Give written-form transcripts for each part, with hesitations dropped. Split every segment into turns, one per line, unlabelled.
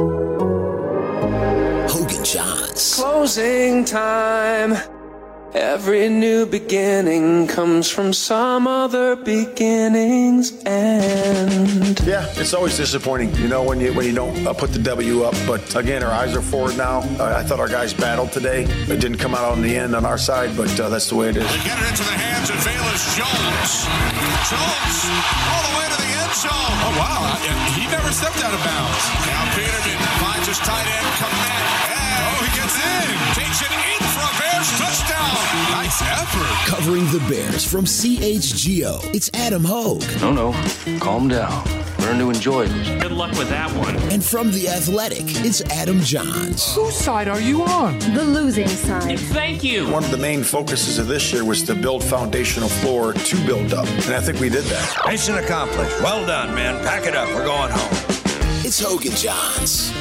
Hogan Johns.
Closing time. Every new beginning comes from some other beginning's end.
Yeah, it's always disappointing, when you don't put the W up. But again, our eyes are forward now. I thought our guys battled today. It didn't come out on the end on our side, but that's the way it is.
They get it into the hands of Velus Jones. Jones all the way to the end zone. Oh, wow. He never stepped out of bounds. Now Peterman finds his tight end, Kmet. He gets in. Takes it in for a Bears touchdown. Nice effort.
Covering the Bears from CHGO, it's Adam Hogue.
No. Calm down. Learn to enjoy it.
Good luck with that one.
And from The Athletic, it's Adam Johns.
Whose side are you on?
The losing side.
Thank you.
One of the main focuses of this year was to build foundational floor to build up. And I think we did that.
Mission accomplished. Well done, man. Pack it up. We're going home.
It's Hogan Johns.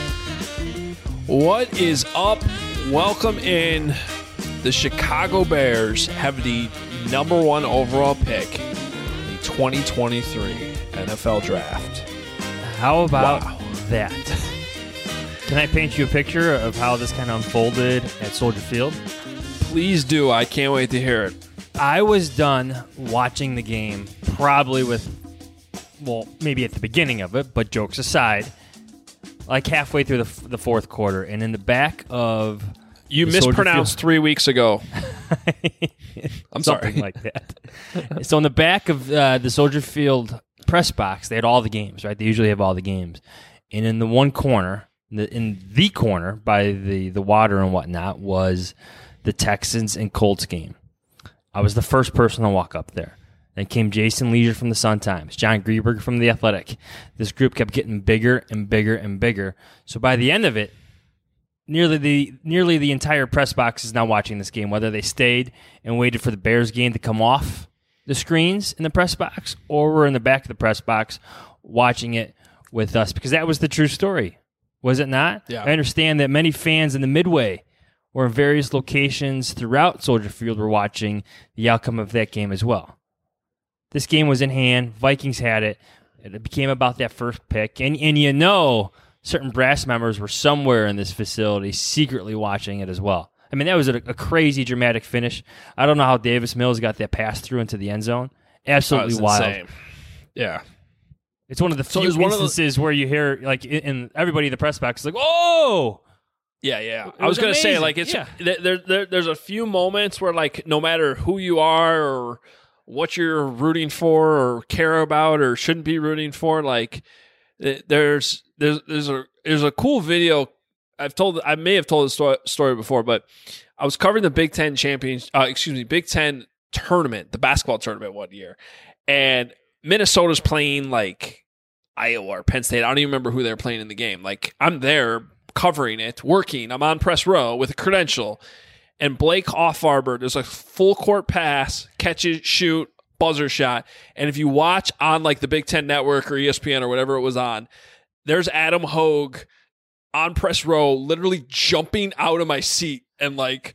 What is up? Welcome in. The Chicago Bears have the number 1 overall pick in the 2023 NFL Draft.
How about that? Can I paint you a picture of how this kind of unfolded at Soldier Field?
Please do. I can't wait to hear it.
I was done watching the game probably maybe at the beginning of it, but jokes aside, like halfway through the fourth quarter, and in the back of
you mispronounced 3 weeks ago. I'm sorry.
Something like that. So in the back of the Soldier Field press box, they had all the games, right? They usually have all the games. And in the one corner, in the corner by the water and whatnot, was the Texans and Colts game. I was the first person to walk up there. Then came Jason Leisure from the Sun-Times, John Greenberg from The Athletic. This group kept getting bigger and bigger and bigger. So by the end of it, nearly the entire press box is now watching this game, whether they stayed and waited for the Bears game to come off the screens in the press box or were in the back of the press box watching it with us, because that was the true story, was it not?
Yeah.
I understand that many fans in the Midway or in various locations throughout Soldier Field were watching the outcome of that game as well. This game was in hand. Vikings had it. It became about that first pick. And certain brass members were somewhere in this facility secretly watching it as well. I mean, that was a crazy, dramatic finish. I don't know how Davis Mills got that pass through into the end zone. Absolutely wild.
Insane. Yeah.
It's one of the few instances where you hear, like, in everybody in the press box is like, "Whoa!"
Yeah. I was going to say, like, there's a few moments where, like, no matter who you are or what you're rooting for or care about or shouldn't be rooting for, like, there's a cool video. I may have told the story before, but I was covering the Big Ten Big Ten tournament, the basketball tournament one year, and Minnesota's playing like Iowa or Penn State. I don't even remember who they're playing in the game. Like, I'm there covering it, working. I'm on press row with a credential, and Blake Offarber, there's a full court pass, catch it, shoot, buzzer shot, and if you watch on like the Big Ten Network or ESPN or whatever it was on, there's Adam Hogue on press row, literally jumping out of my seat and like,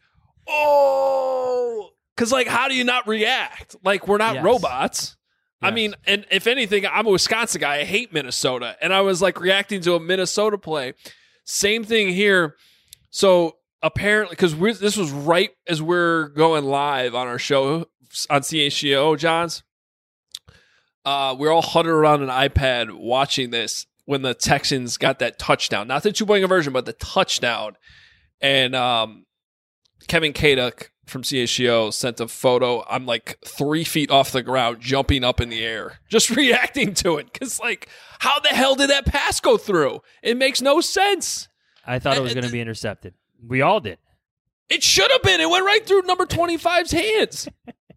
oh, because like, how do you not react? Like, we're not robots. Yes. I mean, and if anything, I'm a Wisconsin guy. I hate Minnesota, and I was like reacting to a Minnesota play. Same thing here. So apparently, because this was right as we're going live on our show on CHGO, Johns, we're all huddled around an iPad watching this when the Texans got that touchdown. Not the two-point conversion, but the touchdown. And Kevin Kaduk from CHGO sent a photo. I'm like 3 feet off the ground, jumping up in the air, just reacting to it. Because, like, how the hell did that pass go through? It makes no sense.
I thought it was going to be intercepted. We all did.
It should have been. It went right through number 25's hands.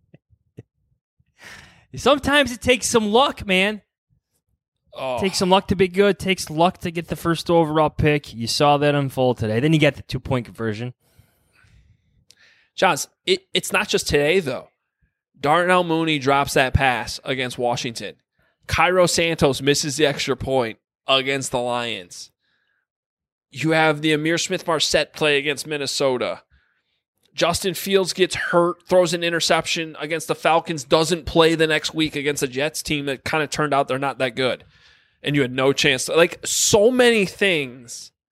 Sometimes it takes some luck, man.
Oh.
Takes some luck to be good. Takes luck to get the first overall pick. You saw that unfold today. Then you get the 2-point conversion.
Johns, it's not just today, though. Darnell Mooney drops that pass against Washington. Cairo Santos misses the extra point against the Lions. You have the Amir Smith-Marset play against Minnesota. Justin Fields gets hurt, throws an interception against the Falcons, doesn't play the next week against a Jets team that kind of turned out they're not that good. And you had no chance to, like, so many things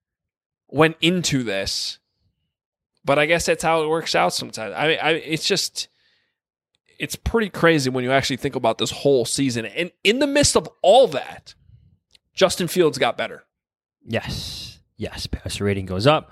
went into this. But I guess that's how it works out sometimes. It's pretty crazy when you actually think about this whole season. And in the midst of all that, Justin Fields got better.
Yes. Passer rating goes up.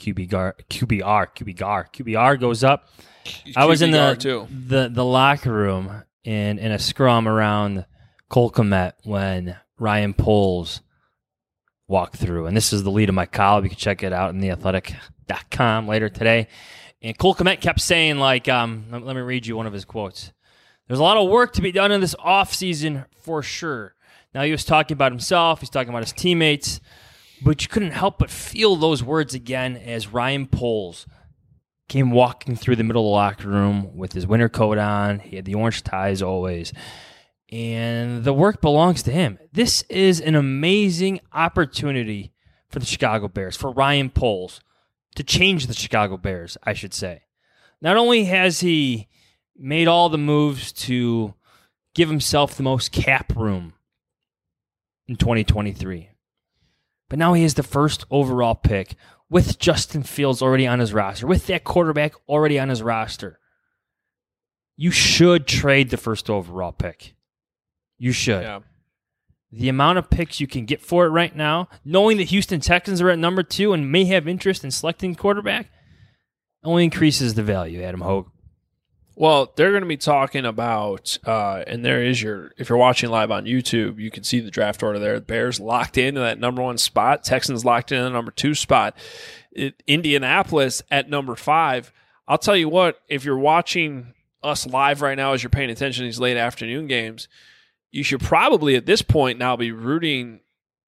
QBR goes up. I was in the locker room in a scrum around Cole Kmet when Ryan Poles walked through. And this is the lead of my column. You can check it out in theathletic.com later today. And Cole Kmet kept saying, let me read you one of his quotes. There's a lot of work to be done in this offseason for sure. Now, he was talking about himself. He's talking about his teammates. But you couldn't help but feel those words again as Ryan Poles came walking through the middle of the locker room with his winter coat on. He had the orange tie as always. And the work belongs to him. This is an amazing opportunity for the Chicago Bears, for Ryan Poles, to change the Chicago Bears, I should say. Not only has he made all the moves to give himself the most cap room in 2023, but now he is the first overall pick with Justin Fields already on his roster, with that quarterback already on his roster. You should trade the first overall pick. You should.
Yeah.
The amount of picks you can get for it right now, knowing the Houston Texans are at number 2 and may have interest in selecting quarterback, only increases the value, Adam Hogue.
Well, they're going to be talking about, and there is if you're watching live on YouTube, you can see the draft order there. The Bears locked into that number 1 spot. Texans locked in the number 2 spot. Indianapolis at number 5. I'll tell you what, if you're watching us live right now as you're paying attention to these late afternoon games, you should probably at this point now be rooting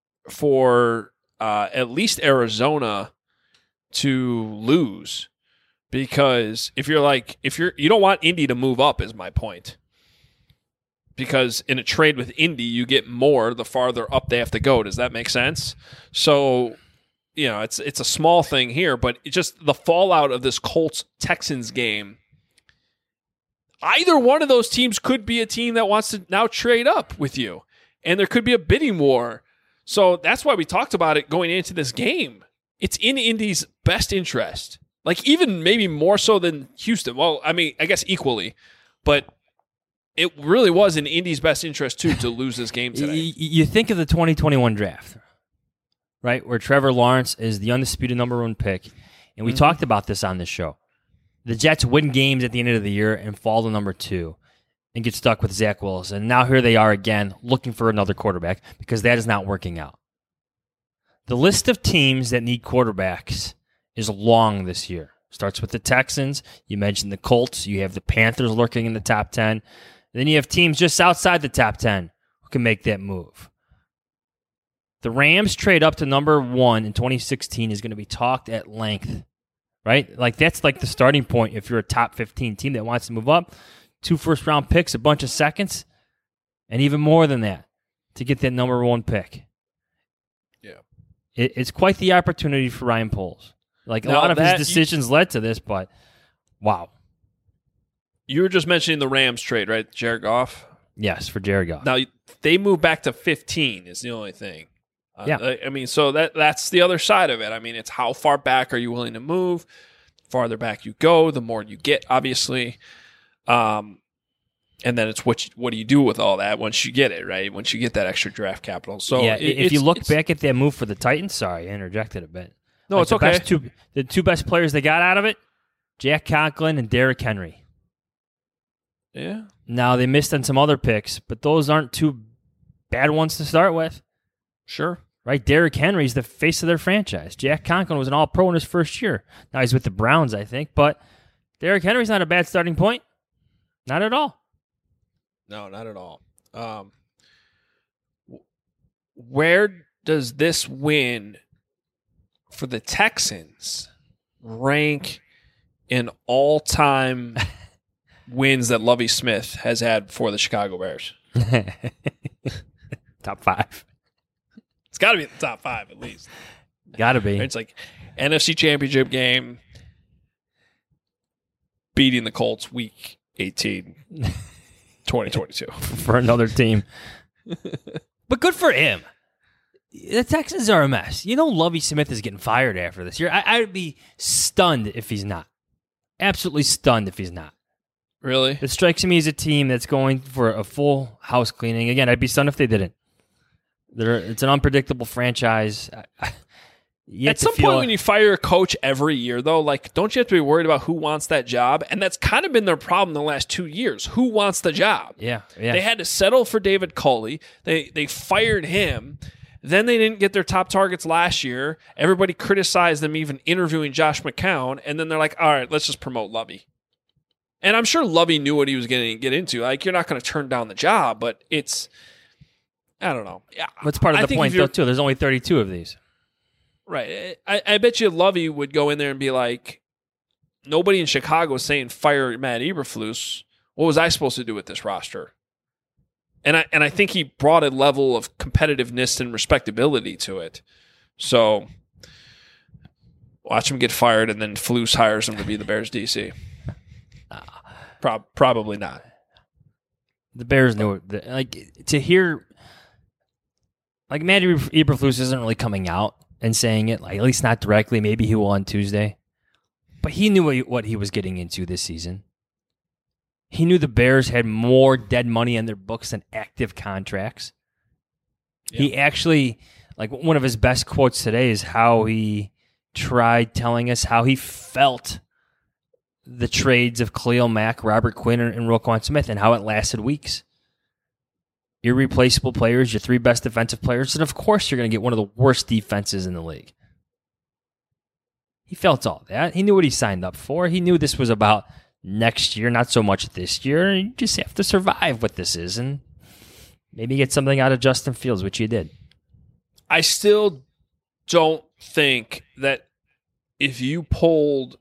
for at least Arizona to lose, because you don't want Indy to move up, is my point. Because in a trade with Indy, you get more the farther up they have to go. Does that make sense? So, it's a small thing here, but it's just the fallout of this Colts-Texans game. Either one of those teams could be a team that wants to now trade up with you, and there could be a bidding war. So that's why we talked about it going into this game. It's in Indy's best interest, even maybe more so than Houston. Well, I mean, I guess equally, but it really was in Indy's best interest too to lose this game today.
You think of the 2021 draft, right, where Trevor Lawrence is the undisputed number 1 pick, and we talked about this on this show. The Jets win games at the end of the year and fall to number 2 and get stuck with Zach Wilson. And now here they are again looking for another quarterback because that is not working out. The list of teams that need quarterbacks is long this year. Starts with the Texans. You mentioned the Colts. You have the Panthers lurking in the top 10. Then you have teams just outside the top 10 who can make that move. The Rams trade up to number 1 in 2016 is going to be talked at length. Right? That's the starting point if you're a top 15 team that wants to move up. 2 first-round picks, a bunch of seconds, and even more than that to get that number 1 pick.
Yeah.
It's quite the opportunity for Ryan Poles. A lot of his decisions led to this, but wow.
You were just mentioning the Rams trade, right? Jared Goff?
Yes, for Jared Goff.
Now, they moved back to 15 is the only thing.
Yeah.
I mean, so that's the other side of it. I mean, it's how far back are you willing to move? The farther back you go, the more you get, obviously. And then it's what do you do with all that once you get it, right? Once you get that extra draft capital. So
yeah, if you look back at that move for the Titans, sorry, I interjected a bit.
No, it's okay.
The 2 best players they got out of it, Jack Conklin and Derrick Henry.
Yeah.
Now, they missed on some other picks, but those aren't 2 bad ones to start with.
Sure.
Right, Derrick Henry's the face of their franchise. Jack Conklin was an all-pro in his first year. Now he's with the Browns, I think, but Derrick Henry's not a bad starting point. Not at all.
No, not at all. Where does this win for the Texans rank in all-time wins that Lovie Smith has had for the Chicago Bears?
Top 5.
It's got to be in the top 5 at least.
Got to be.
It's NFC Championship game, beating the Colts week 18, 2022.
For another team. But good for him. The Texans are a mess. You know Lovie Smith is getting fired after this year. I'd be stunned if he's not. Absolutely stunned if he's not.
Really?
It strikes me as a team that's going for a full house cleaning. Again, I'd be stunned if they didn't. It's an unpredictable franchise.
At some point when you fire a coach every year, though, like, don't you have to be worried about who wants that job? And that's kind of been their problem the last 2 years. Who wants the job?
Yeah.
They had to settle for David Culley. They fired him. Then they didn't get their top targets last year. Everybody criticized them even interviewing Josh McCown. And then they're like, all right, let's just promote Lovie. And I'm sure Lovie knew what he was going to get into. Like, you're not going to turn down the job, but it's, I don't know.
That's part of the point, though, too. There's only 32 of these.
Right. I bet you Lovie would go in there and be like, nobody in Chicago is saying fire Matt Eberflus. What was I supposed to do with this roster? And I think he brought a level of competitiveness and respectability to it. So watch him get fired, and then Flus hires him to be the Bears DC. Probably not.
The Bears knew it. Like, to hear, like, Matt Eberflus isn't really coming out and saying it, like, at least not directly. Maybe he will on Tuesday. But he knew what he was getting into this season. He knew the Bears had more dead money in their books than active contracts. Yeah. He actually, like, one of his best quotes today is how he tried telling us how he felt the trades of Khalil Mack, Robert Quinn, and Roquan Smith, and how it lasted weeks. Irreplaceable players, your 3 best defensive players, and of course you're going to get one of the worst defenses in the league. He felt all that. He knew what he signed up for. He knew this was about next year, not so much this year. You just have to survive what this is and maybe get something out of Justin Fields, which you did.
I still don't think that if you polled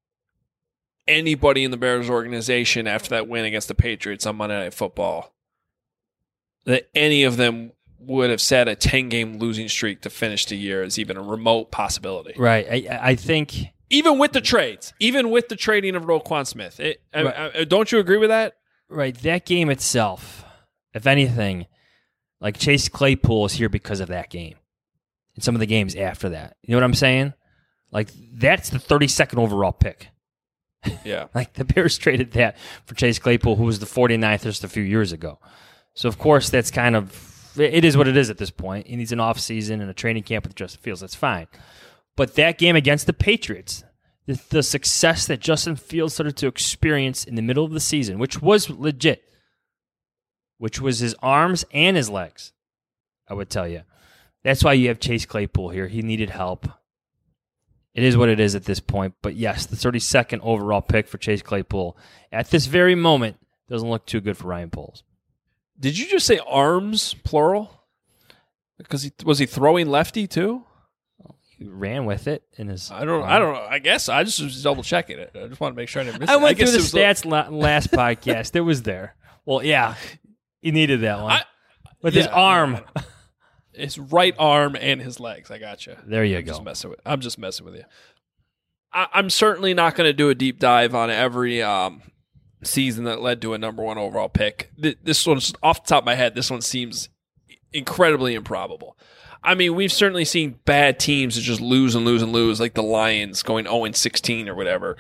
anybody in the Bears organization after that win against the Patriots on Monday Night Football, that any of them would have set a 10-game losing streak to finish the year as even a remote possibility.
Right. I think...
Even with the trades, even with the trading of Roquan Smith. Don't you agree with that?
Right. That game itself, if anything, like, Chase Claypool is here because of that game and some of the games after that. You know what I'm saying? Like, that's the 32nd overall pick.
Yeah.
Like, the Bears traded that for Chase Claypool, who was the 49th just a few years ago. So, of course, that's kind of, it is what it is at this point. He needs an offseason and a training camp with Justin Fields. That's fine. But that game against the Patriots, the success that Justin Fields started to experience in the middle of the season, which was legit, which was his arms and his legs, I would tell you. That's why you have Chase Claypool here. He needed help. It is what it is at this point. But yes, the 32nd overall pick for Chase Claypool at this very moment doesn't look too good for Ryan Poles.
Did you just say arms, plural? Because was he throwing lefty too?
He ran with it in his.
I don't know. I guess I just was double checking it. I just want to make sure I didn't miss it.
I went through the stats last podcast. It was there. Well, yeah, he needed that one with his arm,
his right arm and his legs. I got you.
There you go.
I'm just messing with you. I'm certainly not going to do a deep dive on every season that led to a number 1 overall pick. This one's off the top of my head. This one seems incredibly improbable. I mean, we've certainly seen bad teams that just lose and lose and lose, like the Lions going 0-16 or whatever.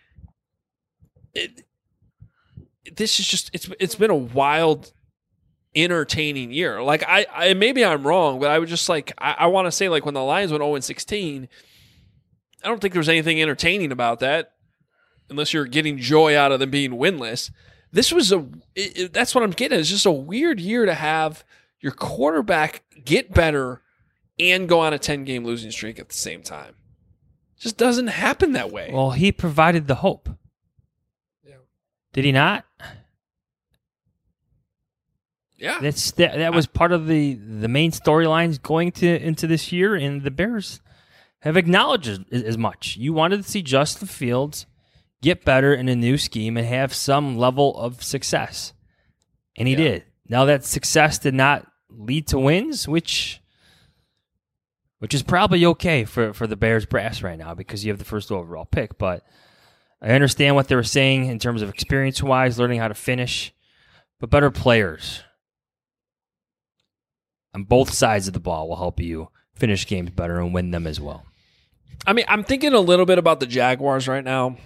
This is just, it's been a wild, entertaining year. Like, I maybe I'm wrong, but I would just like, I want to say, like, when the Lions went 0-16, I don't think there was anything entertaining about that, unless you're getting joy out of them being winless. This was that's what I'm getting at. It's just a weird year to have your quarterback get better and go on a 10-game losing streak at the same time. It just doesn't happen that way.
Well, he provided the hope.
Yeah.
Did he not?
Yeah.
That was part of the main storylines going into this year, and the Bears have acknowledged as much. You wanted to see Justin Fields get better in a new scheme and have some level of success. And he did. Now, that success did not lead to wins, which is probably okay for the Bears brass right now because you have the first overall pick. But I understand what they were saying in terms of experience-wise, learning how to finish, but better players. on both sides of the ball will help you finish games better and win them as well.
I mean, I'm thinking a little bit about the Jaguars right now.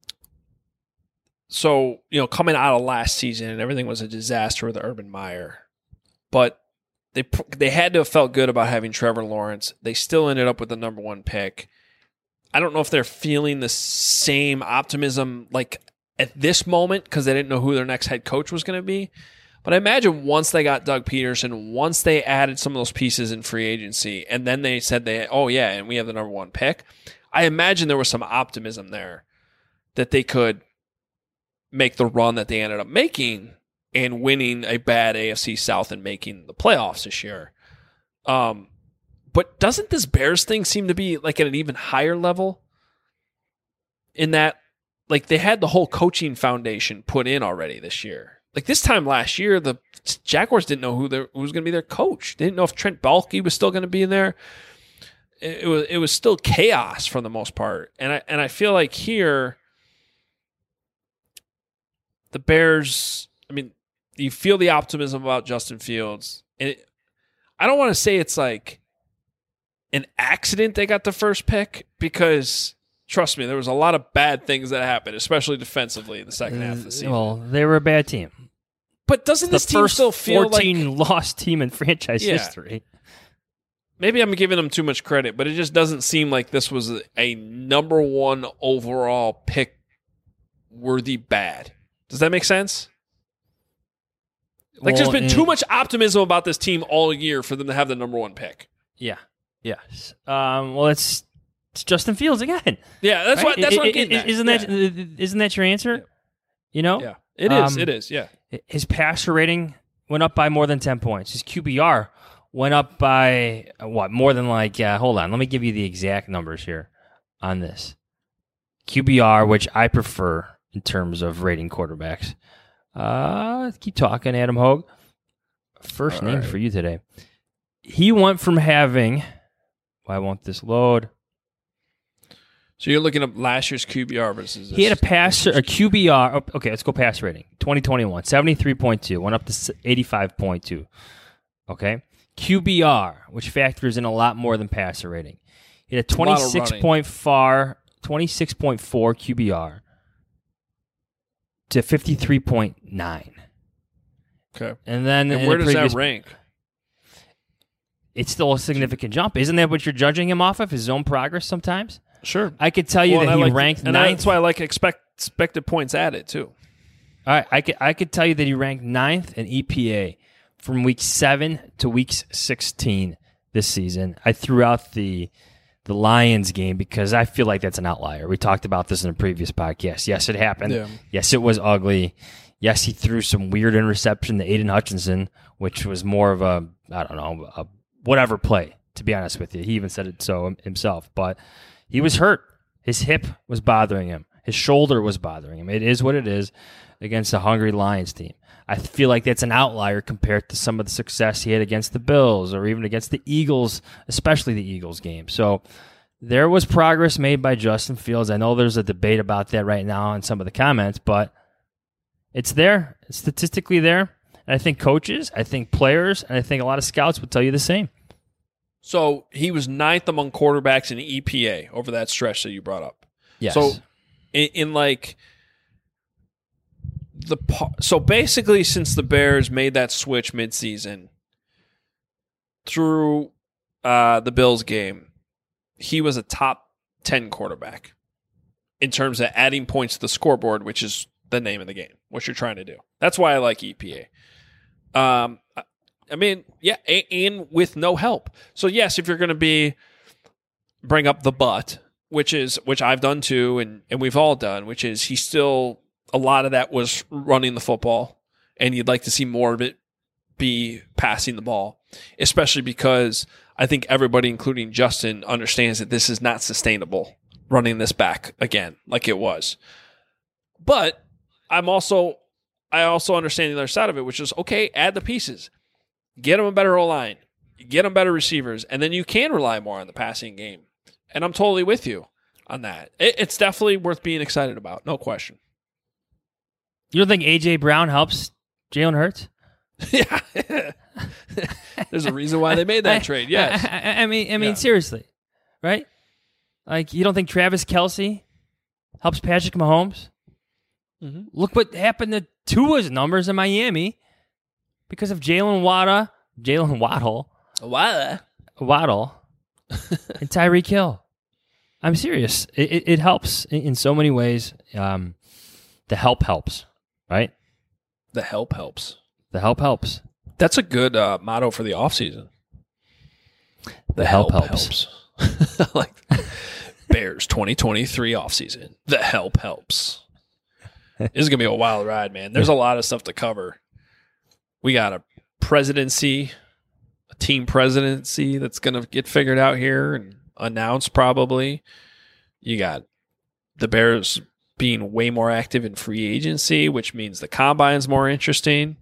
So, coming out of last season and everything was a disaster with Urban Meyer. But they had to have felt good about having Trevor Lawrence. They still ended up with the number 1 pick. I don't know if they're feeling the same optimism like at this moment because they didn't know who their next head coach was going to be. But I imagine once they got Doug Peterson, once they added some of those pieces in free agency, and then they said and we have the number 1 pick, I imagine there was some optimism there that they could make the run that they ended up making and winning a bad AFC South and making the playoffs this year. But doesn't this Bears thing seem to be like at an even higher level in that like they had the whole coaching foundation put in already this year? Like this time last year, the Jaguars didn't know who was going to be their coach. They didn't know if Trent Baalke was still going to be in there. It was still chaos for the most part. And I feel like here the Bears, I mean, you feel the optimism about Justin Fields. And I don't want to say it's like an accident they got the first pick because, trust me, there was a lot of bad things that happened, especially defensively in the second half of the season.
Well, they were a bad team.
But doesn't this team still feel like...
the first 14 lost team in franchise history.
Maybe I'm giving them too much credit, but it just doesn't seem like this was a number 1 overall pick worthy bad. Does that make sense? Like, there's been too much optimism about this team all year for them to have the number 1 pick.
Yeah. Yes. Well, it's Justin Fields again.
Yeah, that's right? What I'm getting at.
Isn't that your answer?
Yeah. It is. It is. Yeah.
His passer rating went up by more than 10 points. His QBR went up by more than hold on. Let me give you the exact numbers here on this. QBR, which I prefer in terms of rating quarterbacks. Keep talking, Adam Hogue. First name for you today. He went from having... Why won't this load?
So you're looking up last year's QBR versus this.
He had a QBR. Okay, let's go pass rating. 2021, 73.2. Went up to 85.2. Okay? QBR, which factors in a lot more than passer rating. He had a 26.4 QBR to 53.9.
Okay.
And
where does that rank?
It's still a significant jump. Isn't that what you're judging him off of, his own progress sometimes?
Sure.
I could tell you that he ranked 9th.
That's why I like expected points added, too.
All right. I could tell you that he ranked 9th in EPA from week 7 to week 16 this season. I threw out the Lions game because I feel like that's an outlier. We talked about this in a previous podcast. Yes, it happened. Yeah. Yes, it was ugly. Yes, he threw some weird interception to Aiden Hutchinson, which was more of a whatever play, to be honest with you. He even said it so himself. But he was hurt. His hip was bothering him. His shoulder was bothering him. It is what it is against a hungry Lions team. I feel like that's an outlier compared to some of the success he had against the Bills or even against the Eagles, especially the Eagles game. So there was progress made by Justin Fields. I know there's a debate about that right now in some of the comments, but it's there. It's statistically there. And I think coaches, I think players, and I think a lot of scouts would tell you the same.
So he was 9th among quarterbacks in EPA over that stretch that you brought up.
Yes.
So so basically, since the Bears made that switch midseason through the Bills game, he was a top 10 quarterback in terms of adding points to the scoreboard, which is the name of the game, what you're trying to do. That's why I like EPA. I mean, yeah, and with no help. So yes, if you're going to bring up the but, which I've done too, and we've all done, which is he still, a lot of that was running the football, and you'd like to see more of it be passing the ball, especially because I think everybody, including Justin, understands that this is not sustainable running this back again like it was. But I also understand the other side of it, which is, okay, add the pieces. Get them a better O-line. Get them better receivers. And then you can rely more on the passing game. And I'm totally with you on that. It's definitely worth being excited about. No question.
You don't think A.J. Brown helps Jalen Hurts?
Yeah. There's a reason why they made that trade. Yes.
I mean, seriously, right? Like, you don't think Travis Kelce helps Patrick Mahomes? Mm-hmm. Look what happened to Tua's numbers in Miami because of Jalen Waddle, and Tyreek Hill. I'm serious. It helps in so many ways. The help helps, right?
The help helps.
The help helps.
That's a good motto for the offseason.
The help helps.
Like Bears 2023 offseason. The help helps. This is going to be a wild ride, man. There's a lot of stuff to cover. We got a presidency, a team presidency that's going to get figured out here and announced probably. You got the Bears being way more active in free agency, which means the combine's more interesting.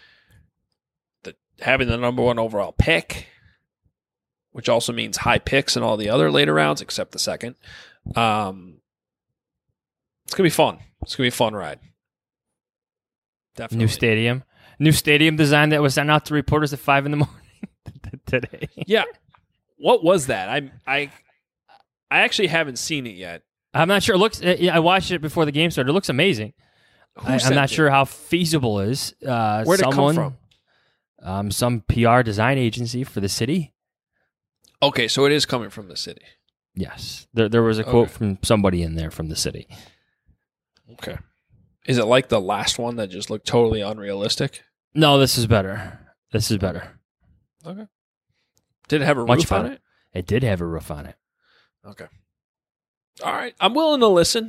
Having the number 1 overall pick, which also means high picks in all the other later rounds except the second. It's going to be fun. It's going to be a fun ride. Definitely.
New stadium design that was sent out to reporters at 5 a.m. today.
Yeah. What was that? I actually haven't seen it yet.
I'm not sure. It looks. I watched it before the game started. It looks amazing. I'm not sure how feasible it is.
Where'd it come
from? Some PR design agency for the city.
Okay, so it is coming from the city.
Yes. There was a quote from somebody in there from the city.
Okay. Is it like the last one that just looked totally unrealistic?
No, this is better.
Okay. Did it have a roof on it?
It did have a roof on it.
Okay. All right. I'm willing to listen.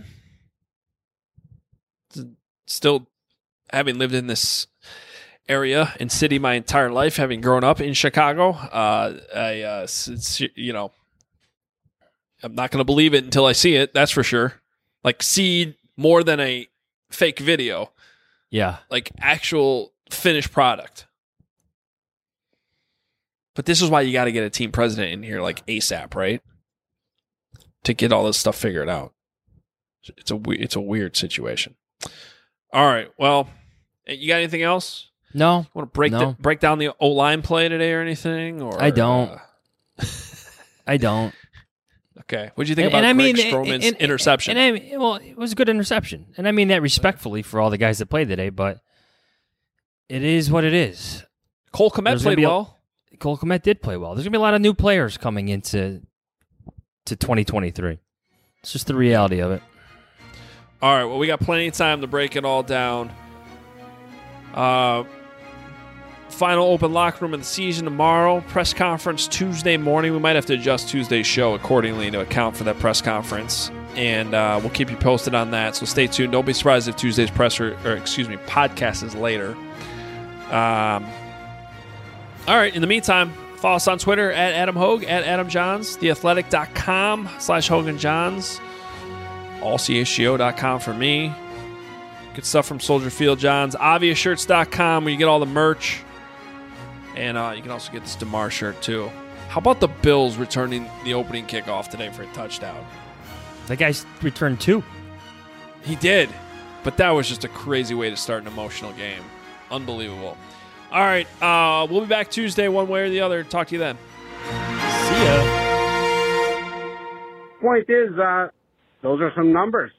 Still, having lived in this area and city my entire life, having grown up in Chicago, I'm not going to believe it until I see it. That's for sure. Like, see more than a fake video.
Yeah.
Like actual finished product. But this is why you got to get a team president in here like ASAP, right? To get all this stuff figured out. It's a weird situation. All right. Well, you got anything else?
No.
You want to break down the O-line play today or anything? Or
I don't. I don't.
Okay. What did you think about Greg Stroman's interception?
It was a good interception. And I mean that respectfully for all the guys that played today, but it is what it is.
Cole Kmet played well.
Cole Kmet did play well. There's going to be a lot of new players coming into 2023. It's just the reality of it.
All right. Well, we got plenty of time to break it all down. Final open locker room of the season tomorrow. Press conference Tuesday morning. We might have to adjust Tuesday's show accordingly to account for that press conference. And we'll keep you posted on that. So stay tuned. Don't be surprised if Tuesday's podcast is later. All right. In the meantime, follow us on Twitter at Adam Hogue, at Adam Johns, theathletic.com/HoganJohns, allchgo.com for me. Good stuff from Soldier Field Johns. Obviousshirts.com where you get all the merch. And you can also get this DeMar shirt too. How about the Bills returning the opening kickoff today for a touchdown?
That guy's returned 2.
He did. But that was just a crazy way to start an emotional game. Unbelievable. All right. We'll be back Tuesday one way or the other. Talk to you then.
See ya.
Point is, those are some numbers.